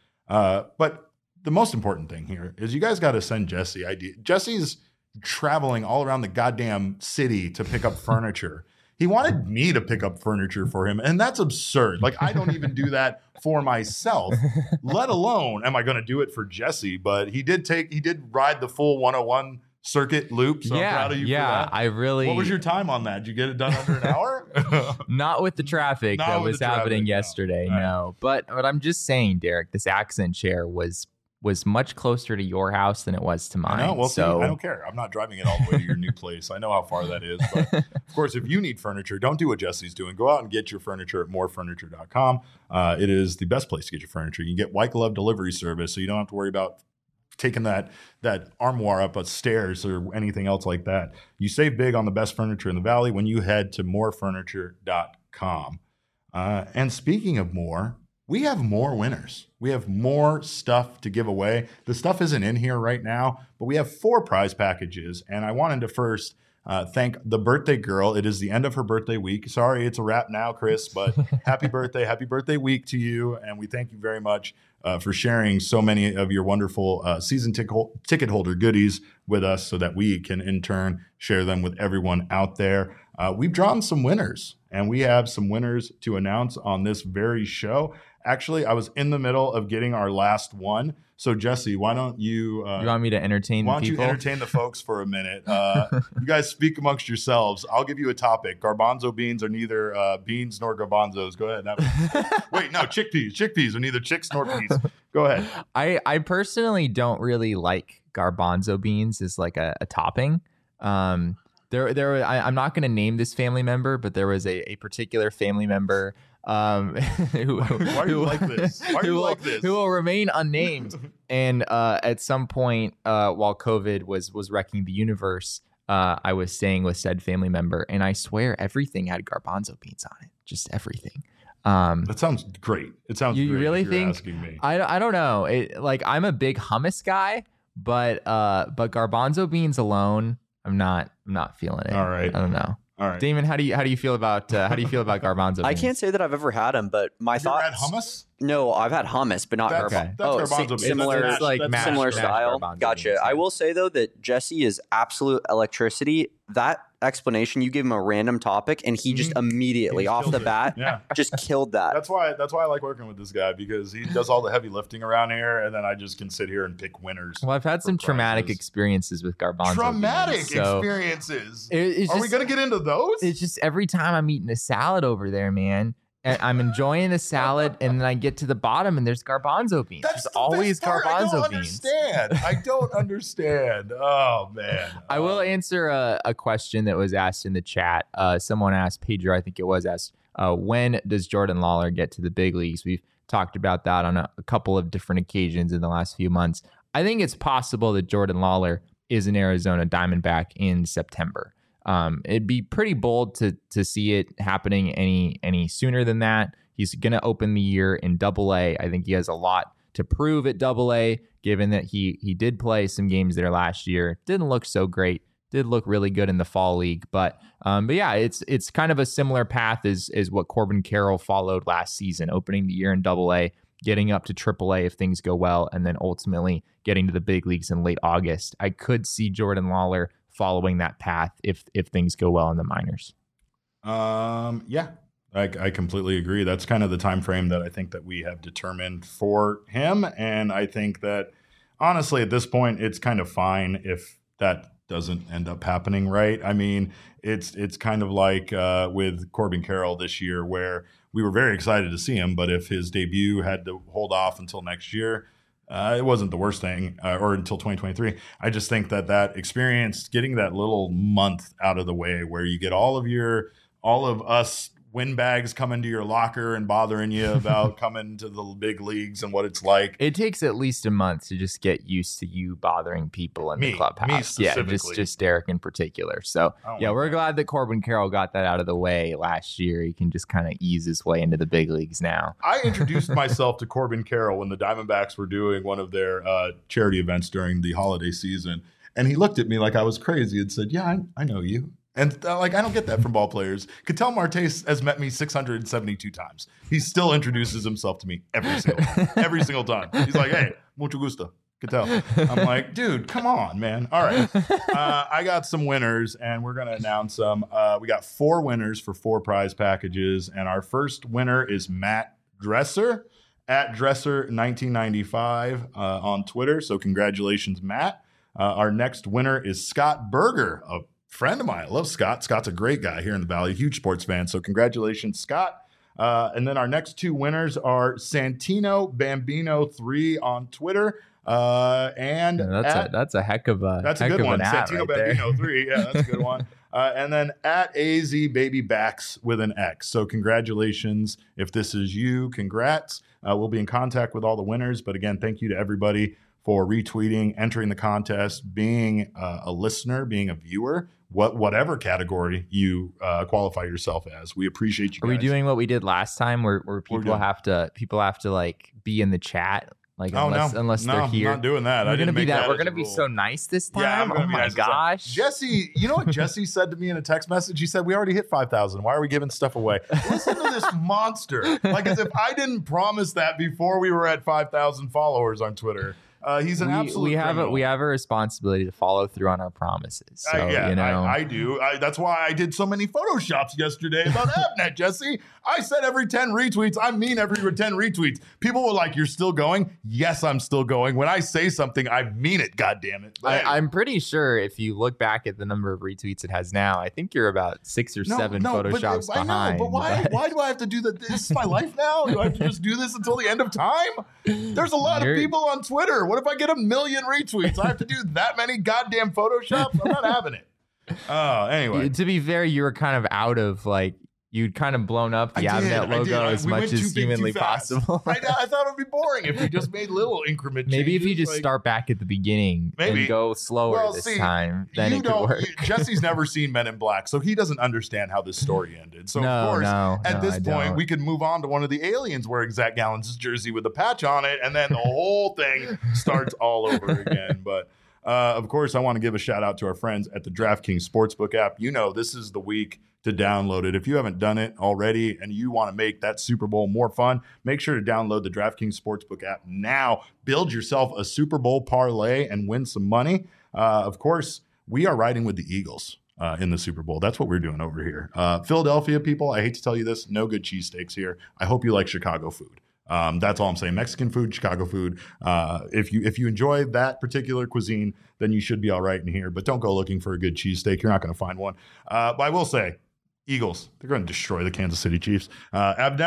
But the most important thing here is you guys got to send Jesse ideas. Jesse's traveling all around the goddamn city to pick up furniture. He wanted me to pick up furniture for him, and that's absurd. Like, I don't even do that for myself, let alone am I going to do it for Jesse. But he did ride the full 101 circuit loop. So I'm proud of you for that. I really. What was your time on that? Did you get it done under an hour? Not with the traffic that was happening yesterday. No. But I'm just saying, Derek, this accent chair was much closer to your house than it was to mine. I know. Well, so I don't care. I'm not driving it all the way to your new place. I know how far that is. But of course, if you need furniture, don't do what Jesse's doing. Go out and get your furniture at morefurniture.com. It is the best place to get your furniture. You can get white glove delivery service, so you don't have to worry about taking that armoire up stairs or anything else like that. You save big on the best furniture in the valley when you head to morefurniture.com. And speaking of more, we have more winners. We have more stuff to give away. The stuff isn't in here right now, but we have 4 prize packages. And I wanted to first thank the birthday girl. It is the end of her birthday week. Sorry, it's a wrap now, Chris, but happy birthday week to you. And we thank you very much for sharing so many of your wonderful season ticket holder goodies with us so that we can in turn share them with everyone out there. We've drawn some winners, and we have some winners to announce on this very show. Actually, I was in the middle of getting our last one. So, Jesse, why don't you... you want me to entertain the people? Why don't you entertain the folks for a minute? You guys speak amongst yourselves. I'll give you a topic. Garbanzo beans are neither beans nor garbanzos. Go ahead. Wait, no, chickpeas. Chickpeas are neither chicks nor peas. Go ahead. I personally don't really like garbanzo beans as like a topping. I'm not going to name this family member, but there was a particular family member who will remain unnamed. And at some point, while COVID was wrecking the universe, I was staying with said family member, and I swear everything had garbanzo beans on it, just everything. That sounds great. It sounds. You great really if you're think? Asking me. I don't know. I'm a big hummus guy, but garbanzo beans alone, I'm not feeling it. All right. I don't know. All right, Damon, how do you feel about garbanzo beans? I can't say that I've ever had them, but my thoughts. You ever had hummus? No, I've had hummus, but not garbanzo. That's garbanzo beans. Similar style. Gotcha. Beans, yeah. I will say though that Jesse is absolute electricity. That explanation, you give him a random topic, and he just immediately off the bat just killed that. That's why I like working with this guy, because he does all the heavy lifting around here, and then I just can sit here and pick winners. Well, I've had some traumatic experiences with garbanzo beans, experiences. Are we gonna get into those? It's just every time I'm eating a salad over there, man. And I'm enjoying the salad, and then I get to the bottom, and there's garbanzo beans. That's always garbanzo beans. I don't understand. Oh, man. I will answer a question that was asked in the chat. Someone asked, Pedro, I think it was asked, when does Jordan Lawler get to the big leagues? We've talked about that on a couple of different occasions in the last few months. I think it's possible that Jordan Lawler is an Arizona Diamondback in September. It'd be pretty bold to see it happening any sooner than that. He's going to open the year in Double-A. I think he has a lot to prove at Double-A, given that he did play some games there last year. Didn't look so great. Did look really good in the fall league, but yeah, it's kind of a similar path as what Corbin Carroll followed last season, opening the year in Double-A, getting up to Triple-A if things go well, and then ultimately getting to the big leagues in late August. I could see Jordan Lawler following that path if things go well in the minors. Yeah, I completely agree. That's kind of the time frame that I think that we have determined for him, and I think that honestly at this point it's kind of fine if that doesn't end up happening, right? I mean, it's kind of like with Corbin Carroll this year, where we were very excited to see him, but if his debut had to hold off until next year, it wasn't the worst thing, or until 2023. I just think that experience, getting that little month out of the way where you get all of us windbags coming to your locker and bothering you about coming to the big leagues and what it's like. It takes at least a month to just get used to you bothering people in the clubhouse. Yeah, just Derek in particular. So yeah, we're glad that Corbin Carroll got that out of the way last year. He can just kind of ease his way into the big leagues now. I introduced myself to Corbin Carroll when the Diamondbacks were doing one of their charity events during the holiday season. And he looked at me like I was crazy and said, "Yeah, I know you." And I don't get that from ball players. Ketel Marte has met me 672 times. He still introduces himself to me every single time. He's like, "Hey, mucho gusto, Ketel." I'm like, dude, come on, man. All right. I got some winners, and we're going to announce them. We got 4 winners for 4 prize packages, and our first winner is Matt Dresser, at Dresser1995 on Twitter. So congratulations, Matt. Our next winner is Scott Berger, a friend of mine. I love Scott. Scott's a great guy here in the Valley, huge sports fan. So congratulations, Scott. And then our next 2 winners are Santino Bambino 3 on Twitter. And that's a heck of a good one. Santino right Bambino 3. Yeah, that's a good one. And then at AZ Baby Backs with an X. So congratulations. If this is you, congrats. We'll be in contact with all the winners. But again, thank you to everybody for retweeting, entering the contest, being a listener, being a viewer, whatever category you qualify yourself as. We appreciate you guys. Are we doing what we did last time where people have to like be in the chat? Like unless they're here. I'm not doing that. We're gonna be so nice this time. Yeah, oh my gosh. Jesse, you know what Jesse said to me in a text message? He said, "We already hit 5,000. Why are we giving stuff away?" Listen to this monster. Like as if I didn't promise that before we were at 5,000 followers on Twitter. He's an absolute criminal. We have a responsibility to follow through on our promises. So, I do. That's why I did so many Photoshops yesterday about Avnet, Jesse. I said every 10 retweets. I mean every 10 retweets. People were like, "You're still going?" Yes, I'm still going. When I say something, I mean it, goddammit. I'm pretty sure if you look back at the number of retweets it has now, I think you're about 6 or 7 Photoshops behind. I know, but why do I have to do that? This is my life now? Do I have to just do this until the end of time? There's a lot of people on Twitter. What if I get 1 million retweets? I have to do that many goddamn Photoshops? I'm not having it. Anyway. To be fair, you were kind of out of you'd kind of blown up the Avnet logo as much as humanly possible. I thought it would be boring if we just made little increment changes. Maybe if you just start back at the beginning and go slower time, then it could work. Jesse's never seen Men in Black, so he doesn't understand how this story ended. So, of course, at this point, we could move on to one of the aliens wearing Zach Gallen's jersey with a patch on it, and then the whole thing starts all over again. But of course, I want to give a shout out to our friends at the DraftKings Sportsbook app. You know, this is the week to download it. If you haven't done it already and you want to make that Super Bowl more fun, make sure to download the DraftKings Sportsbook app now. Build yourself a Super Bowl parlay and win some money. Of course, we are riding with the Eagles in the Super Bowl. That's what we're doing over here. Philadelphia people, I hate to tell you this, no good cheesesteaks here. I hope you like Chicago food. That's all I'm saying. Mexican food, Chicago food. If you enjoy that particular cuisine, then you should be all right in here. But don't go looking for a good cheesesteak. You're not going to find one. But I will say, Eagles, they're going to destroy the Kansas City Chiefs. I'm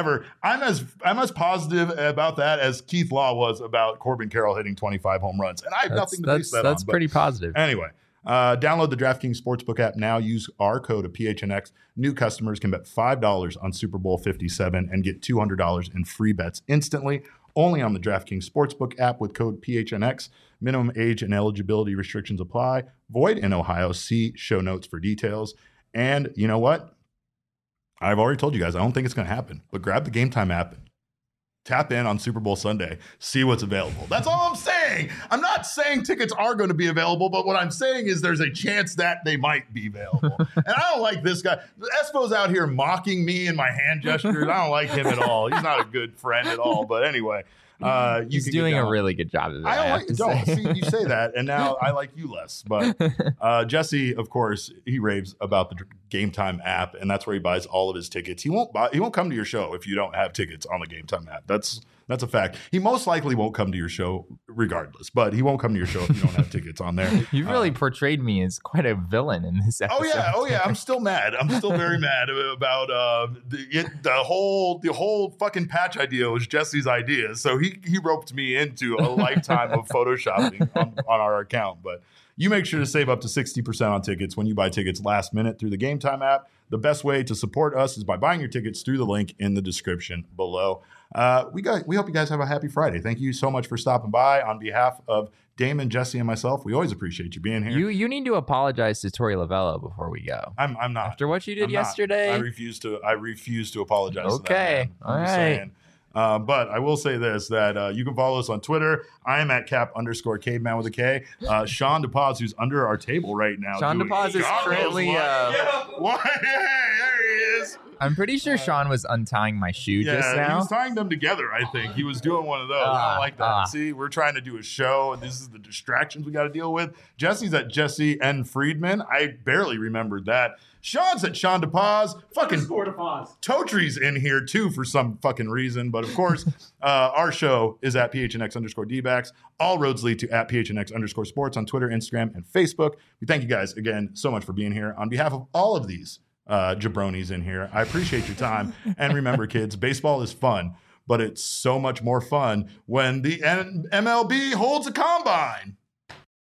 as positive about that as Keith Law was about Corbin Carroll hitting 25 home runs, and I have nothing to base that on. That's pretty positive. Anyway, Download the DraftKings Sportsbook app now. Use our code of PHNX. New customers can bet $5 on Super Bowl 57 and get $200 in free bets instantly. Only on the DraftKings Sportsbook app with code PHNX. Minimum age and eligibility restrictions apply. Void in Ohio. See show notes for details. And you know what? I've already told you guys, I don't think it's going to happen. But grab the Game Time app. Tap in on Super Bowl Sunday, see what's available. That's all I'm saying. I'm not saying tickets are going to be available, but what I'm saying is there's a chance that they might be available. And I don't like this guy. Espo's out here mocking me and my hand gestures. I don't like him at all. He's not a good friend at all. But anyway. He's doing a really good job of it. See, you say that, and now I like you less. But Jesse, of course, he raves about the Game Time app, and that's where he buys all of his tickets. He won't come to your show if you don't have tickets on the Game Time app. That's a fact. He most likely won't come to your show regardless, but he won't come to your show if you don't have tickets on there. You've really portrayed me as quite a villain in this episode. Oh yeah. I'm still mad. I'm still very mad about the whole fucking patch idea was Jesse's idea. So he roped me into a lifetime of photoshopping on our account. But you make sure to save up to 60% on tickets when you buy tickets last minute through the Game Time app. The best way to support us is by buying your tickets through the link in the description below. We hope you guys have a happy Friday. Thank you so much for stopping by. On behalf of Damon, Jesse, and myself, we always appreciate you being here. You need to apologize to Tori Lavello before we go. I'm not. After what you did yesterday? I refuse to apologize. Okay. To that, all right. Saying. But I will say this, that you can follow us on Twitter. I am at cap_caveman with a K. Sean DePaz, who's under our table right now. Sean DePaz is currently... There he is. I'm pretty sure Sean was untying my shoe just now. He was tying them together, I think. He was doing one of those. I don't like that. See, we're trying to do a show, and this is the distractions we got to deal with. Jesse's at Jesse N. Friedman. I barely remembered that. Sean's at Sean DePaz. Fucking Totry's in here, too, for some fucking reason. But, of course, our show is at PHNX_DBacks. All roads lead to at PHNX_sports on Twitter, Instagram, and Facebook. We thank you guys, again, so much for being here. On behalf of all of these jabronis in here, I appreciate your time. And remember, kids, baseball is fun, but it's so much more fun when the MLB holds a combine.